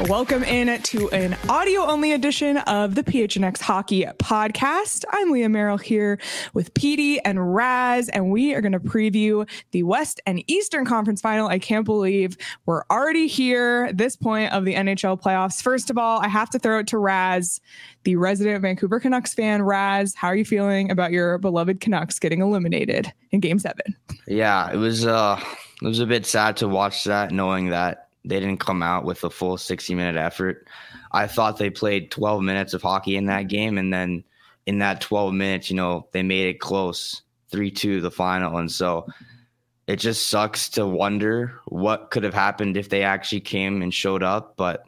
Welcome in to an audio-only edition of the PHNX Hockey Podcast. I'm Leah Merrill here with Petey and Raz, and we are going to preview the West and Eastern Conference Final. I can't believe we're already here at this point of the NHL playoffs. First of all, I have to throw it to Raz, the resident Vancouver Canucks fan. Raz, how are you feeling about your beloved Canucks getting eliminated in Game 7? Yeah, it was a bit sad to watch that, knowing that they didn't come out with a full 60-minute effort. I thought they played 12 minutes of hockey in that game, and then in that 12 minutes, they made it close, 3-2 the final. And so it just sucks to wonder what could have happened if they actually came and showed up. But,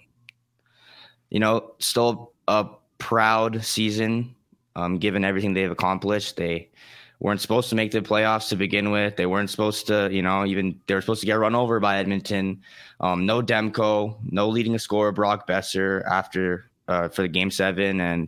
still a proud season, given everything they've accomplished. They weren't supposed to make the playoffs to begin with. They weren't supposed to, they were supposed to get run over by Edmonton. No Demko, no leading a scorer, Brock Besser after for the Game 7. And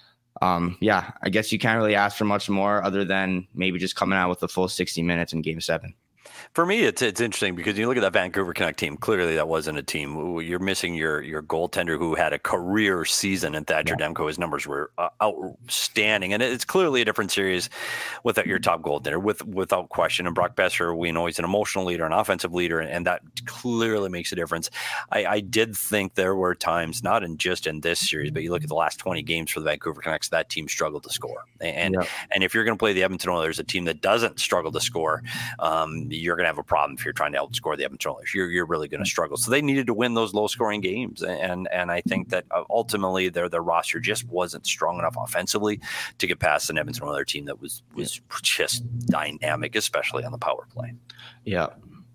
I guess you can't really ask for much more other than maybe just coming out with the full 60 minutes in Game 7. For me, it's interesting because you look at that Vancouver Canuck team. Clearly, that wasn't a team. You're missing your goaltender who had a career season, and Thatcher Demko. His numbers were outstanding, and it's clearly a different series without your top goaltender, without question. And Brock Besser, we know he's an emotional leader, an offensive leader, and that clearly makes a difference. I did think there were times, not just in this series, but you look at the last 20 games for the Vancouver Canucks, that team struggled to score. And if you're going to play the Edmonton Oilers, a team that doesn't struggle to score, you're going to have a problem if you're trying to outscore the Edmonton Oilers. You're really going to struggle. So they needed to win those low-scoring games, and I think that ultimately their roster just wasn't strong enough offensively to get past an Edmonton Oilers team that was just dynamic, especially on the power play. Yeah.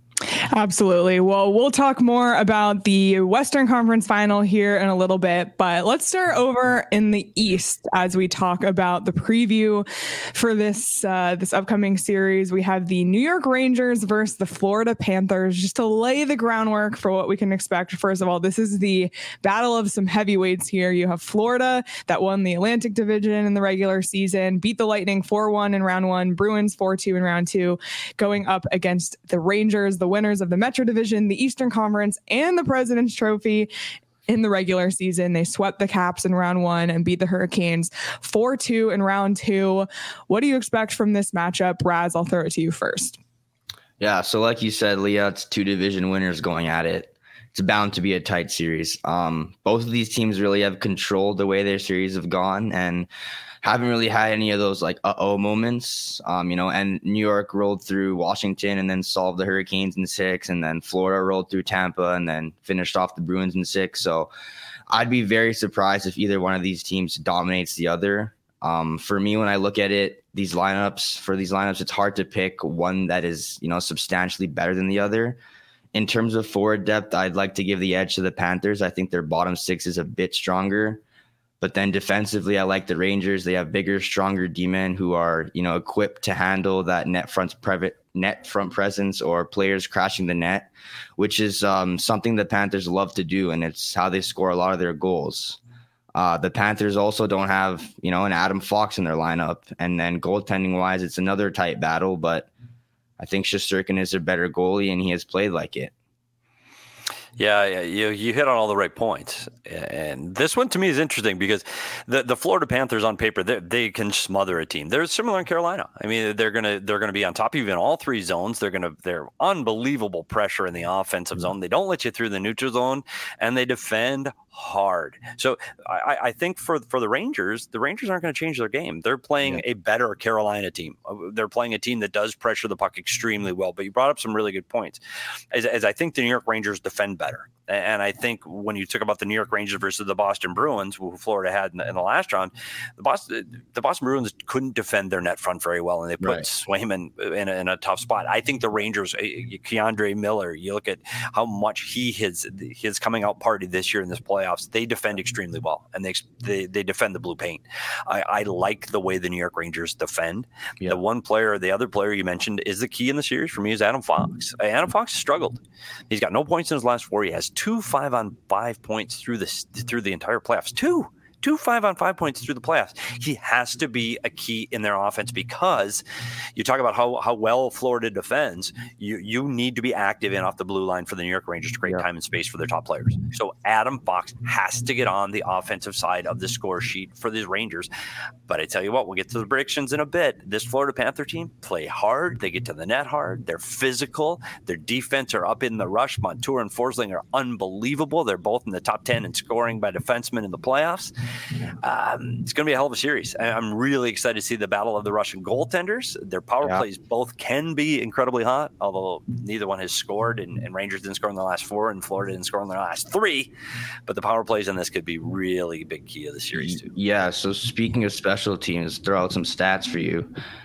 Absolutely. Well, we'll talk more about the Western Conference Final here in a little bit, but let's start over in the East as we talk about the preview for this upcoming series. We have the New York Rangers versus the Florida Panthers. Just to lay the groundwork for what we can expect. First of all, this is the battle of some heavyweights here. You have Florida that won the Atlantic Division in the regular season, beat the Lightning 4-1 in round 1, Bruins 4-2 in round 2, going up against the Rangers, the winners of the Metro Division, the Eastern Conference, and the President's Trophy in the regular season. They swept the Caps in round 1 and beat the Hurricanes 4-2 in round 2. What do you expect from this matchup? Raz, I'll throw it to you first. Yeah, so like you said, Leah, it's two division winners going at it. It's bound to be a tight series. Both of these teams really have controlled the way their series have gone and haven't really had any of those moments, and New York rolled through Washington and then solved the Hurricanes in 6, and then Florida rolled through Tampa and then finished off the Bruins in 6. So I'd be very surprised if either one of these teams dominates the other. For me, when I look at it, these lineups, it's hard to pick one that is, substantially better than the other. In terms of forward depth, I'd like to give the edge to the Panthers. I think their bottom 6 is a bit stronger. But then defensively, I like the Rangers. They have bigger, stronger D-men who are, equipped to handle that net front presence or players crashing the net, which is something the Panthers love to do, and it's how they score a lot of their goals. The Panthers also don't have, an Adam Fox in their lineup. And then goaltending-wise, it's another tight battle, but I think Shesterkin is a better goalie, and he has played like it. Yeah, you hit on all the right points, and this one to me is interesting because the Florida Panthers on paper they can smother a team. They're similar in Carolina. I mean, they're gonna be on top of you in all 3 zones. They're unbelievable pressure in the offensive zone. They don't let you through the neutral zone, and they defend hard. So I think for the Rangers aren't going to change their game. They're playing a better Carolina team. They're playing a team that does pressure the puck extremely well. But you brought up some really good points. As I think the New York Rangers defend better. And I think when you talk about the New York Rangers versus the Boston Bruins, who Florida had in the last round, the Boston Bruins couldn't defend their net front very well, and they put Swayman in a tough spot. I think the Rangers, Keandre Miller, you look at how much his coming out party this year in this playoffs, they defend extremely well, and they defend the blue paint. I like the way the New York Rangers defend. Yep. The other player you mentioned is the key in the series for me is Adam Fox. Adam Fox struggled. He's got no points in his last 4. He has 2 5-on-5 points through the entire playoffs. 2. 2 5-on-5 points through the playoffs. He has to be a key in their offense, because you talk about how well Florida defends. You need to be active in off the blue line for the New York Rangers to create time and space for their top players. So Adam Fox has to get on the offensive side of the score sheet for these Rangers. But I tell you what, we'll get to the predictions in a bit. This Florida Panther team play hard. They get to the net hard. They're physical. Their defense are up in the rush. Montour and Forsling are unbelievable. They're both in the top 10 in scoring by defensemen in the playoffs. It's going to be a hell of a series. I'm really excited to see the battle of the Russian goaltenders. Their power plays both can be incredibly hot, although neither one has scored, and Rangers didn't score in the last 4, and Florida didn't score in the last 3. But the power plays in this could be really big key of the series too. Yeah. So speaking of special teams, throw out some stats for you.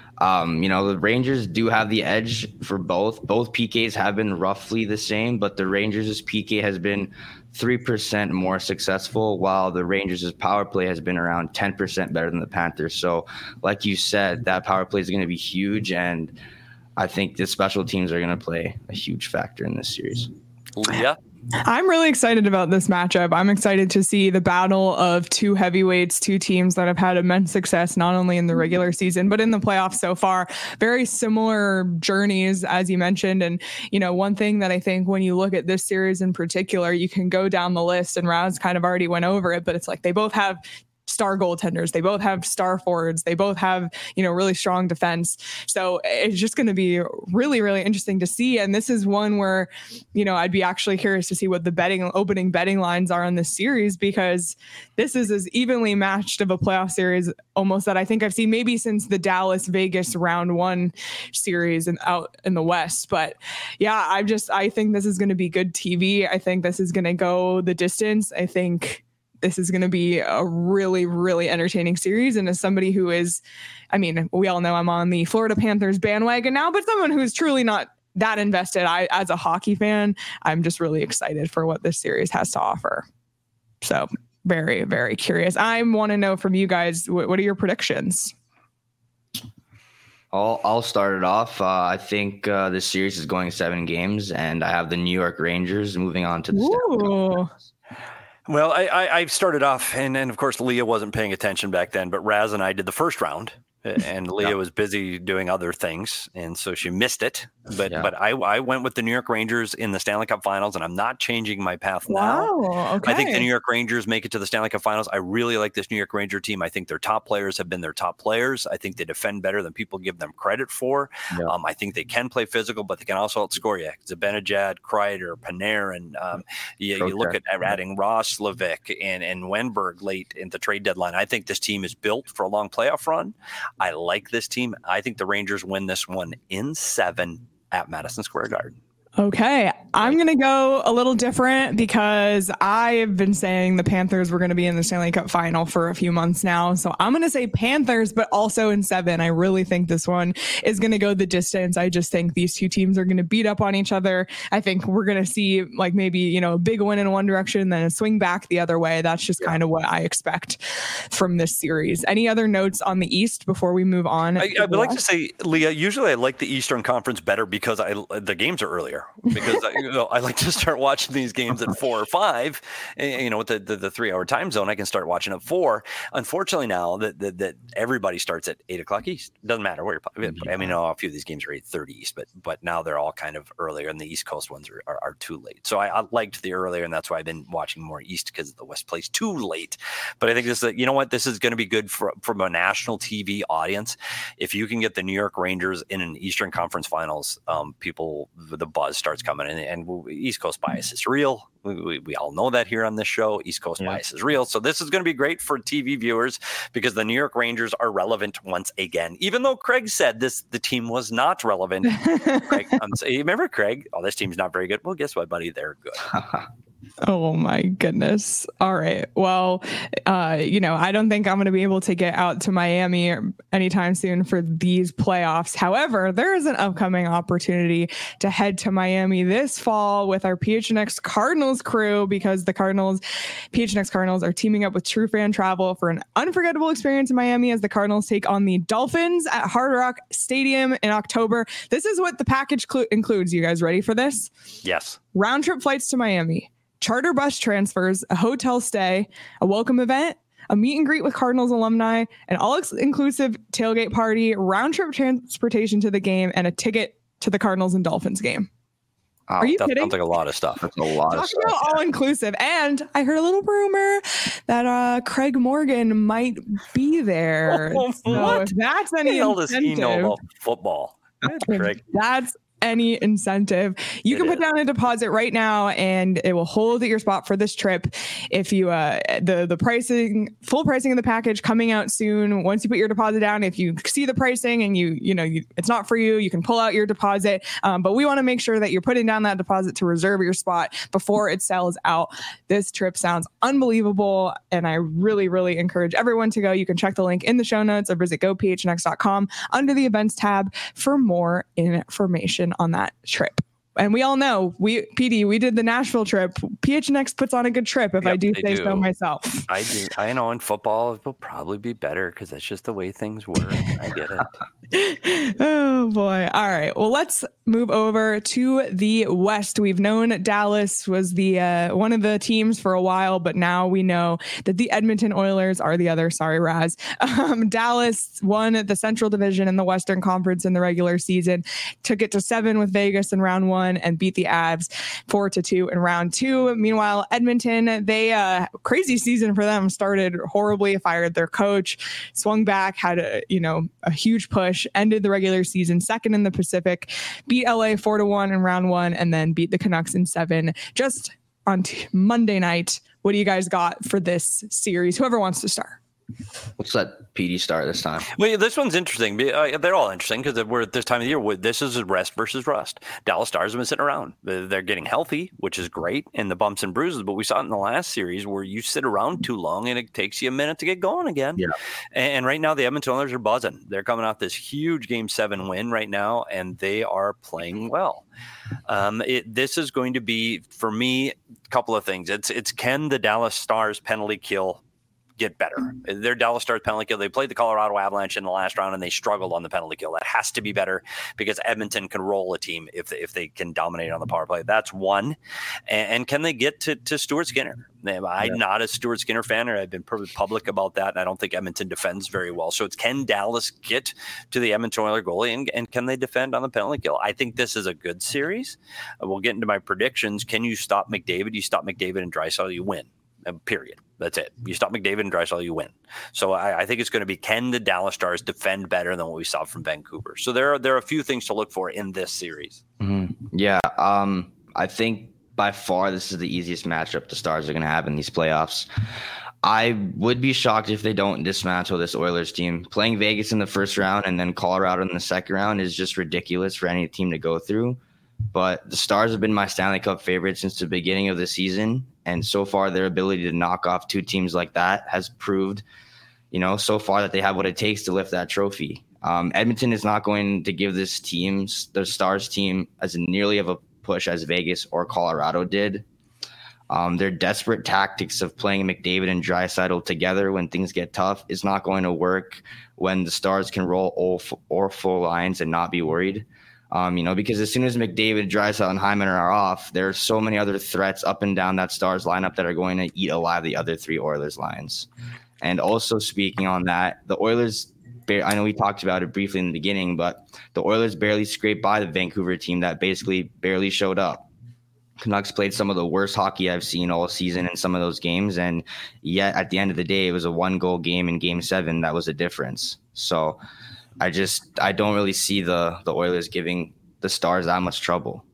The Rangers do have the edge for both. Both PKs have been roughly the same, but the Rangers' PK has been 3% more successful, while the Rangers' power play has been around 10% better than the Panthers. So like you said, that power play is going to be huge, and I think the special teams are going to play a huge factor in this series. Yeah. I'm really excited about this matchup. I'm excited to see the battle of two heavyweights, two teams that have had immense success, not only in the regular season, but in the playoffs so far. Very similar journeys, as you mentioned. And, one thing that I think when you look at this series in particular, you can go down the list, and Raz kind of already went over it, but it's like they both have star goaltenders. They both have star forwards. They both have, really strong defense. So it's just going to be really, really interesting to see. And this is one where, I'd be actually curious to see what the opening betting lines are on this series, because this is as evenly matched of a playoff series almost that I think I've seen maybe since the Dallas Vegas round 1 series and out in the West. But yeah, I think this is going to be good TV. I think this is going to go the distance. I think this is going to be a really, really entertaining series. And as somebody who is, we all know I'm on the Florida Panthers bandwagon now, but someone who's truly not that invested, as a hockey fan, I'm just really excited for what this series has to offer. So very, very curious. I want to know from you guys, what are your predictions? I'll start it off. I think this series is going 7 games, and I have the New York Rangers moving on to the Stanley Cup. Well, I started off, and of course, Leah wasn't paying attention back then, but Raz and I did the first round, and Leah was busy doing other things, and so she missed it. But I went with the New York Rangers in the Stanley Cup Finals, and I'm not changing my path now. Okay. I think the New York Rangers make it to the Stanley Cup Finals. I really like this New York Ranger team. I think their top players have been their top players. I think they defend better than people give them credit for. Yeah. I think they can play physical, but they can also outscore you. Zibanejad, Kreider, Panarin. You look at adding Roslovic and Wenberg late in the trade deadline. I think this team is built for a long playoff run. I like this team. I think the Rangers win this one in 7 at Madison Square Garden. Okay, I'm going to go a little different because I have been saying the Panthers were going to be in the Stanley Cup final for a few months now. So I'm going to say Panthers, but also in 7. I really think this one is going to go the distance. I just think these two teams are going to beat up on each other. I think we're going to see maybe, a big win in one direction, then a swing back the other way. That's just kind of what I expect from this series. Any other notes on the East before we move on? I would like to say, Leah, usually I like the Eastern Conference better because the games are earlier. Because I like to start watching these games at 4 or 5, with the 3-hour time zone, I can start watching at 4. Unfortunately, now that everybody starts at 8 o'clock East, doesn't matter where you're. A few of these games are 8:30 East, but now they're all kind of earlier, and the East Coast ones are too late. So I liked the earlier, and that's why I've been watching more East because the West plays too late. But I think this is going to be good from a national TV audience. If you can get the New York Rangers in an Eastern Conference Finals, the buzz starts coming in, and East Coast bias is real. We all know that here on this show. East Coast bias is real. So this is going to be great for TV viewers because the New York Rangers are relevant once again. Even though Craig said the team was not relevant. Craig, remember Craig? Oh, this team's not very good. Well, guess what, buddy? They're good. Oh my goodness. All right. Well, I don't think I'm going to be able to get out to Miami anytime soon for these playoffs. However, there is an upcoming opportunity to head to Miami this fall with our PHNX Cardinals crew because the PHNX Cardinals are teaming up with True Fan Travel for an unforgettable experience in Miami as the Cardinals take on the Dolphins at Hard Rock Stadium in October. This is what the package includes. You guys ready for this? Yes. Round trip flights to Miami, charter bus transfers, a hotel stay, a welcome event, a meet and greet with Cardinals alumni, an all-inclusive tailgate party, round-trip transportation to the game, and a ticket to the Cardinals and Dolphins game. Oh, Are you that kidding? Sounds like a lot of stuff. That's a lot of stuff. Talk about all-inclusive. And I heard a little rumor that Craig Morgan might be there. What? If that's any What the hell does he know incentive, about football? Craig. that's any incentive. You can put down a deposit right now and it will hold your spot for this trip. If you the pricing, full pricing of the package coming out soon. Once you put your deposit down, if you see the pricing and it's not for you, you can pull out your deposit. But we want to make sure that you're putting down that deposit to reserve your spot before it sells out. This trip sounds unbelievable, and I really, really encourage everyone to go. You can check the link in the show notes or visit gophnx.com under the events tab for more information on that trip. And we all know, we did the Nashville trip. PHNX puts on a good trip, if I do say so myself. I do. I know in football it will probably be better because that's just the way things work. I get it. Oh boy. All right. Well, let's move over to the West. We've known Dallas was the one of the teams for a while, but now we know that the Edmonton Oilers are the other. Sorry, Raz. Dallas won the Central Division in the Western Conference in the regular season, took it to 7 with Vegas in round 1. And beat the Avs 4-2 in round 2. Meanwhile, Edmonton, they crazy season for them, started horribly, fired their coach, swung back, had a huge push, ended the regular season second in the Pacific, beat LA 4-1 in round 1, and then beat the Canucks in 7 just on Monday night. What do you guys got for this series? Whoever wants to start. Let's let PD start this time. Well, this one's interesting. They're all interesting because we're at this time of the year. This is rest versus rust. Dallas Stars have been sitting around. They're getting healthy, which is great, and the bumps and bruises. But we saw it in the last series where you sit around too long and it takes you a minute to get going again. Yeah. And right now the Edmonton Oilers are buzzing. They're coming off this huge Game 7 win right now, and they are playing well. This is going to be, for me, a couple of things. It's can the Dallas Stars penalty kill get better? Their Dallas Stars penalty kill. They played the Colorado Avalanche in the last round and they struggled on the penalty kill. That has to be better because Edmonton can roll a team if they can dominate on the power play. That's one. And can they get to Stuart Skinner? I'm not a Stuart Skinner fan, or I've been pretty public about that, and I don't think Edmonton defends very well. So it's, can Dallas get to the Edmonton Oilers goalie, and can they defend on the penalty kill? I think this is a good series. We'll get into my predictions. Can you stop McDavid? You stop McDavid and Draisaitl, you win. Period. That's it. You stop McDavid and Draisaitl, you win. So I think it's going to be, can the Dallas Stars defend better than what we saw from Vancouver? So there are a few things to look for in this series. Mm-hmm. Yeah. I think by far this is the easiest matchup the Stars are going to have in these playoffs. I would be shocked if they don't dismantle this Oilers team. Playing Vegas in the first round and then Colorado in the second round is just ridiculous for any team to go through. But the Stars have been my Stanley Cup favorite since the beginning of the season. And so far, their ability to knock off two teams like that has proved, so far that they have what it takes to lift that trophy. Edmonton is not going to give this team, the Stars team, as nearly of a push as Vegas or Colorado did. Their desperate tactics of playing McDavid and Draisaitl together when things get tough is not going to work when the Stars can roll all full lines and not be worried. Because as soon as McDavid, Draisaitl, and Hyman are off, there are so many other threats up and down that Stars lineup that are going to eat alive the other three Oilers lines. And also speaking on that, the Oilers, I know we talked about it briefly in the beginning, but the Oilers barely scraped by the Vancouver team that basically barely showed up. Canucks played some of the worst hockey I've seen all season in some of those games, and yet at the end of the day, it was a 1-goal game in Game 7 that was a difference. So I don't really see the Oilers giving the Stars that much trouble.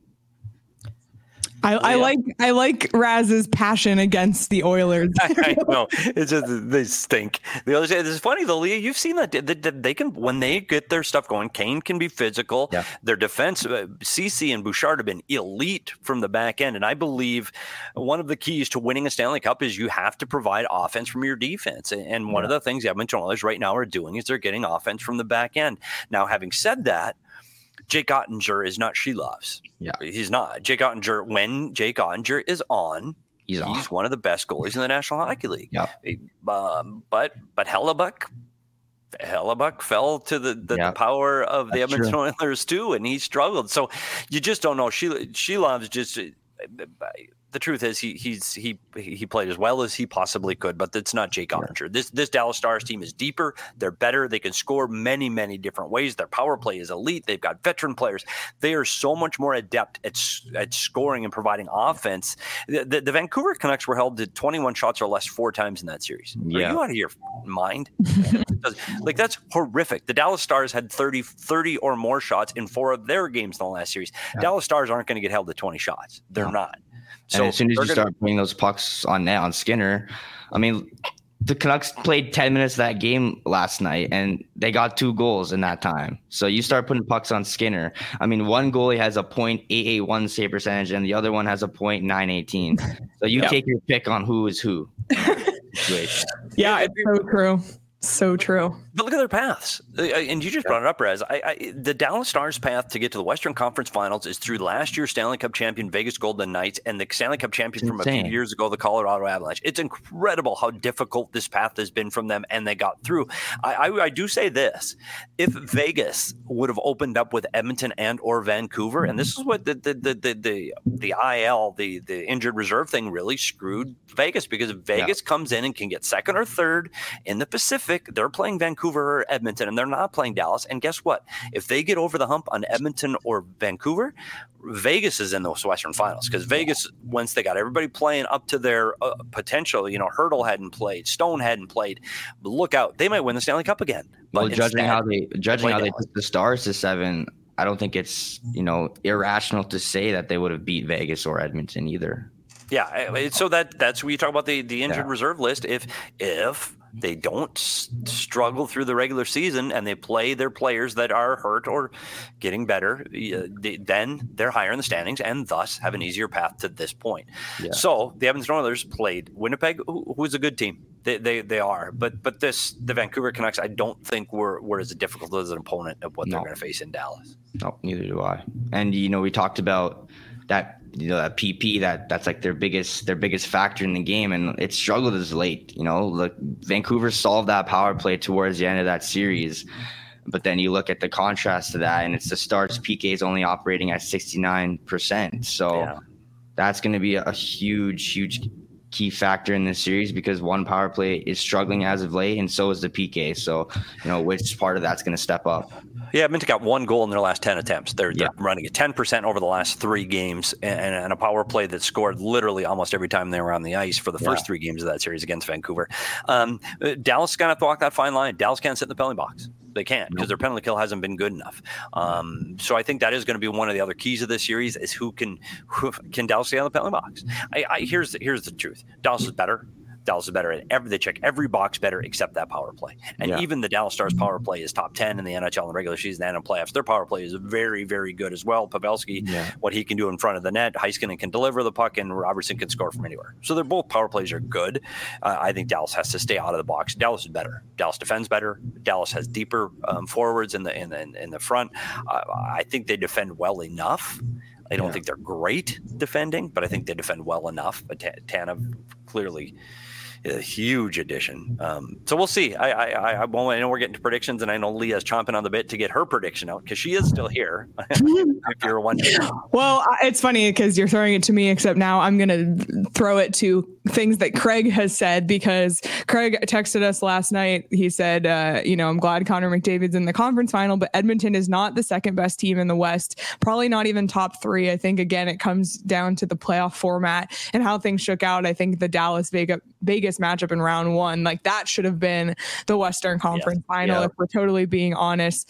I like Raz's passion against the Oilers. I know. It's just, they stink. The other side, it's funny though, Leah, you've seen that they can, when they get their stuff going, Kane can be physical. Yeah. Their defense, CC and Bouchard have been elite from the back end. And I believe one of the keys to winning a Stanley Cup is you have to provide offense from your defense. And one of the things the Edmonton Oilers right now are doing is they're getting offense from the back end. Now, having said that, Jake Ottinger is not Shelov's. Yeah, he's not. Jake Ottinger, when Jake Ottinger is on, he's one of the best goalies in the National Hockey League. Yeah. But Hellebuck fell to the power of the Edmonton Oilers too, and he struggled. So you just don't know. Shelov's just the truth is he played as well as he possibly could, but it's not Jake Oettinger. This Dallas Stars team is deeper. They're better. They can score many, many different ways. Their power play is elite. They've got veteran players. They are so much more adept at scoring and providing offense. The Vancouver Canucks were held to 21 shots or less 4 times in that series. Are you out of your mind? Like, that's horrific. The Dallas Stars had 30 or more shots in 4 of their games in the last series. Dallas Stars aren't going to get held to 20 shots. They're not. So and as soon as you start putting those pucks on net on Skinner, I mean, the Canucks played 10 minutes of that game last night, and they got 2 goals in that time. So you start putting pucks on Skinner. I mean, one goalie has a .881 save percentage, and the other one has a .918. So you take your pick on who is who. It's so true. So true. But look at their paths. And you just brought it up, Raz. The Dallas Stars' path to get to the Western Conference Finals is through last year's Stanley Cup champion Vegas Golden Knights and the Stanley Cup champion from a few years ago, the Colorado Avalanche. It's incredible how difficult this path has been from them, and they got through. I do say this. If Vegas would have opened up with Edmonton and or Vancouver, and this is what the IL, the injured reserve thing really screwed Vegas, because if Vegas comes in and can get second or third in the Pacific, they're playing Vancouver or Edmonton, and they're not playing Dallas. And guess what? If they get over the hump on Edmonton or Vancouver, Vegas is in those Western Finals, because Vegas, once they got everybody playing up to their potential, Hurdle hadn't played, Stone hadn't played. But look out, they might win the Stanley Cup again. But judging how they put the Stars to 7, I don't think it's irrational to say that they would have beat Vegas or Edmonton either. Yeah, so that's where you talk about the injured reserve list. If they don't struggle through the regular season and they play their players that are hurt or getting better, then they're higher in the standings and thus have an easier path to this point. Yeah. So the Edmonton Oilers played Winnipeg, who's a good team. They are, but the Vancouver Canucks, I don't think were as difficult as an opponent of what they're going to face in Dallas. No, neither do I. And we talked about that. That PP, that's like their biggest factor in the game, and it struggled as late. Look, Vancouver solved that power play towards the end of that series, but then you look at the contrast to that, and it's the Stars' PK is only operating at 69%. So that's going to be a huge key factor in this series, because one power play is struggling as of late, and so is the PK. So which part of that's going to step up. Yeah, Edmonton got 1 goal in their last 10 attempts. They're running at 10% over the last 3 games, and a power play that scored literally almost every time they were on the ice for the first 3 games of that series against Vancouver. Dallas is going to have to walk that fine line. Dallas can't sit in the penalty box. They can't, because their penalty kill hasn't been good enough. So I think that is going to be one of the other keys of this series, is who can Dallas stay on the penalty box. Here's the truth. Dallas is better. Dallas is better at they check every box better except that power play. And even the Dallas Stars power play is top 10 in the NHL in the regular season and in playoffs. Their power play is very, very good as well. Pavelski, what he can do in front of the net, Heiskanen can deliver the puck, and Robertson can score from anywhere. So they're both power plays are good. I think Dallas has to stay out of the box. Dallas is better. Dallas defends better. Dallas has deeper forwards in the front. I think they defend well enough. I don't think they're great defending, but I think they defend well enough. But Tanev clearly a huge addition. So we'll see. I know we're getting to predictions, and I know Leah's chomping on the bit to get her prediction out, because she is still here. If you're wondering. Well, it's funny because you're throwing it to me, except now I'm going to throw it to things that Craig has said, because Craig texted us last night. He said, I'm glad Connor McDavid's in the conference final, but Edmonton is not the second best team in the West. Probably not even top 3. I think, again, it comes down to the playoff format and how things shook out. I think the Dallas Vegas matchup in round 1, like that should have been the Western Conference final, if we're totally being honest.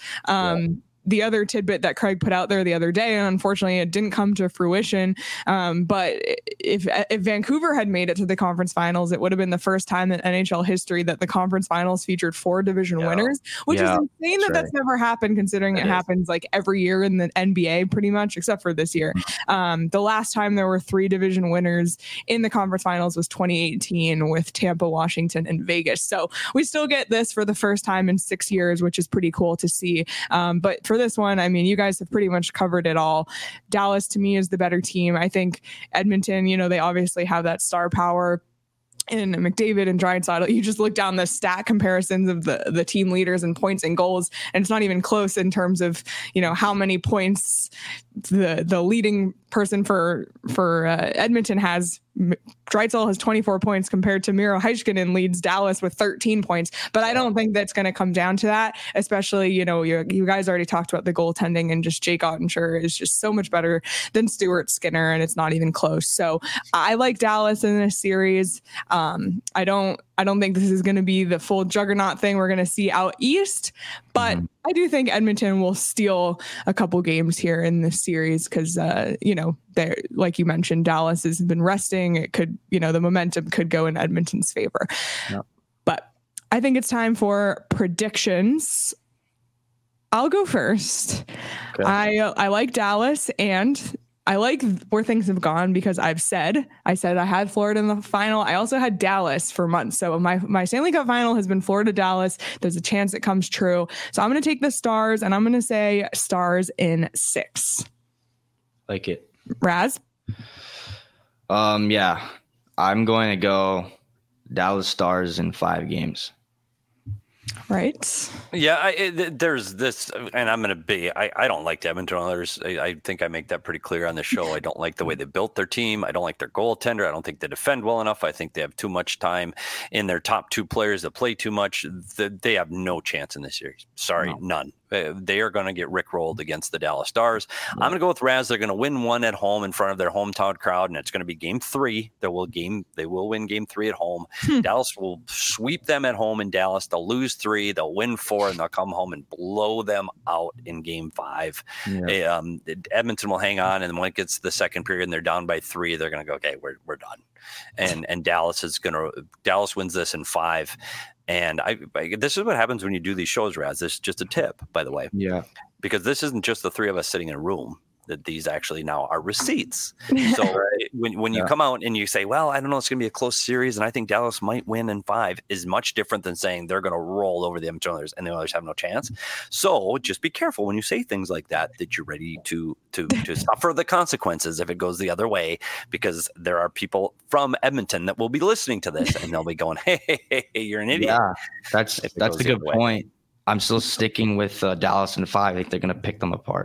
The other tidbit that Craig put out there the other day, and unfortunately it didn't come to fruition, but if Vancouver had made it to the conference finals, it would have been the first time in NHL history that the conference finals featured 4 division winners, which is insane that's never happened, considering it happens like every year in the NBA pretty much, except for this year. The last time there were 3 division winners in the conference finals was 2018 with Tampa, Washington, and Vegas. So we still get this for the first time in 6 years, which is pretty cool to see. But for this one, I mean, you guys have pretty much covered it all. Dallas, to me, is the better team. I think Edmonton, they obviously have that star power in McDavid and Draisaitl. You just look down the stat comparisons of the team leaders and points and goals, and it's not even close in terms of, how many points the leading person for Edmonton has Draisaitl has 24 points compared to Miro Heiskanen leads Dallas with 13 points. But I don't think that's going to come down to that, especially, you guys already talked about the goaltending, and just Jake Ottinger is just so much better than Stuart Skinner, and it's not even close. So I like Dallas in this series. I don't think this is going to be the full juggernaut thing we're going to see out east, but I do think Edmonton will steal a couple games here in this series because, they're, like you mentioned, Dallas has been resting. It could, the momentum could go in Edmonton's favor. Yep. But I think it's time for predictions. I'll go first. Okay. I like Dallas, and I like where things have gone because I said I had Florida in the final. I also had Dallas for months. So my Stanley Cup final has been Florida, Dallas. There's a chance it comes true. So I'm going to take the Stars, and I'm going to say Stars in 6. Like it. Raz? Yeah, I'm going to go Dallas Stars in 5 games. Right. Yeah, there's this, and I'm going to be, I don't like the Edmonton Oilers. I think I make that pretty clear on the show. I don't like the way they built their team. I don't like their goaltender. I don't think they defend well enough. I think they have too much time in their top 2 players that play too much. They have no chance in this series. Sorry, none. They are going to get rickrolled against the Dallas Stars. I'm going to go with Raz. They're going to win 1 at home in front of their hometown crowd, and it's going to be game 3. They will win game 3 at home. Dallas will sweep them at home in Dallas. They'll lose 3. They'll win 4, and they'll come home and blow them out in game 5. Yeah. Edmonton will hang on, and when it gets the second period and they're down by 3, they're going to go, okay, we're done. And Dallas wins this in 5. And this is what happens when you do these shows, Raz. This is just a tip, by the way. Yeah. Because this isn't just the 3 of us sitting in a room. That these actually now are receipts. So when you come out and you say, well, I don't know, it's going to be a close series, and I think Dallas might win in 5, is much different than saying they're going to roll over the Edmonton Oilers and the Oilers have no chance. So just be careful when you say things like that you're ready to suffer the consequences if it goes the other way, because there are people from Edmonton that will be listening to this and they'll be going, hey, you're an idiot. Yeah, that's a good point. I'm still sticking with Dallas in 5. I think they're going to pick them apart.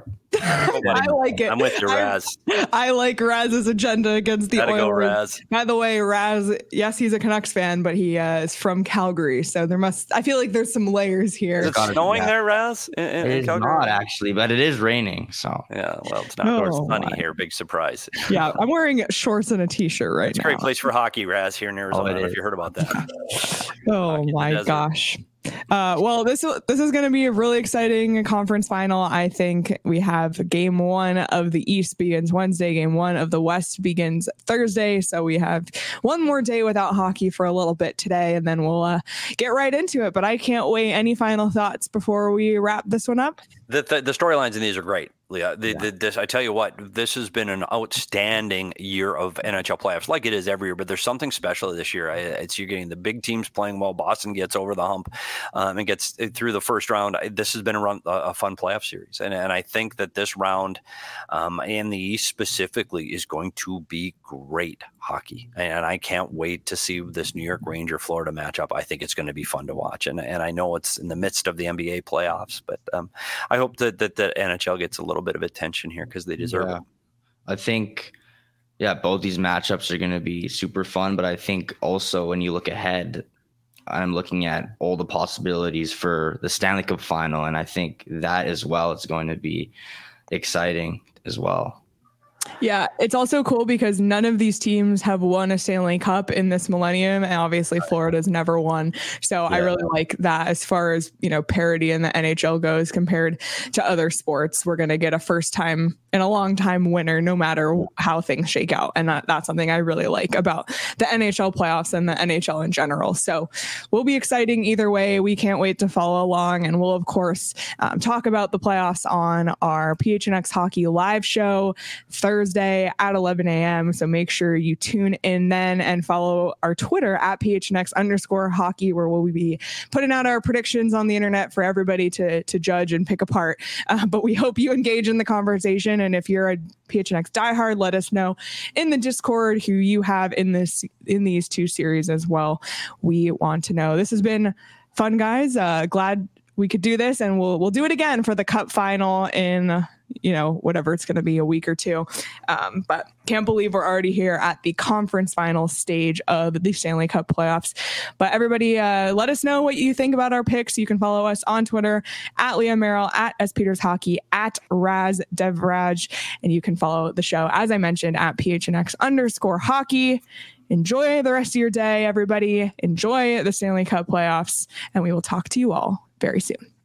I like it. I'm with you, Raz. I like Raz's agenda against the Oilers. Go, Raz. By the way, Raz, yes, he's a Canucks fan, but he is from Calgary. So I feel like there's some layers here. Is it snowing there, Raz? It is not actually, but it is raining. So yeah, well, it's not. It's sunny here. Big surprise. Yeah, I'm wearing shorts and a t-shirt right now. It's a great place for hockey, Raz, here in Arizona. I don't know if you heard about that. Oh my gosh. Well, this is going to be a really exciting conference final. I think we have game 1 of the East begins Wednesday. Game 1 of the West begins Thursday. So we have one more day without hockey for a little bit today, and then we'll get right into it. But I can't wait. Any final thoughts before we wrap this one up? The storylines in these are great, Leah. I tell you what, this has been an outstanding year of NHL playoffs, like it is every year. But there's something special this year. You're getting the big teams playing well. Boston gets over the hump and gets through the first round. This has been a fun playoff series, and I think that this round in the East specifically is going to be great hockey, and I can't wait to see this New York Ranger Florida matchup. I think it's going to be fun to watch, and I know it's in the midst of the NBA playoffs, but I hope that the NHL gets a little bit of attention here because they deserve it. I think, both these matchups are going to be super fun, but I think also when you look ahead, I'm looking at all the possibilities for the Stanley Cup final, and I think that as well is going to be exciting as well. Yeah, it's also cool because none of these teams have won a Stanley Cup in this millennium, and obviously Florida's never won. So I really like that as far as, parity in the NHL goes compared to other sports. We're going to get a first time in a long time winner no matter how things shake out. And that's something I really like about the NHL playoffs and the NHL in general. So we'll be exciting either way. We can't wait to follow along. And we'll, of course, talk about the playoffs on our PHNX Hockey live show Thursday at 11 a.m. So make sure you tune in then and follow our Twitter at PHNX_hockey, where we'll be putting out our predictions on the internet for everybody to judge and pick apart. But we hope you engage in the conversation. And if you're a PHNX diehard, let us know in the Discord who you have in these 2 series as well. We want to know. This has been fun, guys. Glad we could do this, and we'll do it again for the Cup final in whatever it's going to be, a week or two. But can't believe we're already here at the conference final stage of the Stanley Cup playoffs. But everybody, let us know what you think about our picks. You can follow us on Twitter at Leah Merrill, at S. Peters Hockey, at Raz Devraj, and you can follow the show, as I mentioned, at PHNX_hockey. Enjoy the rest of your day, everybody. Enjoy the Stanley Cup playoffs, and we will talk to you all very soon.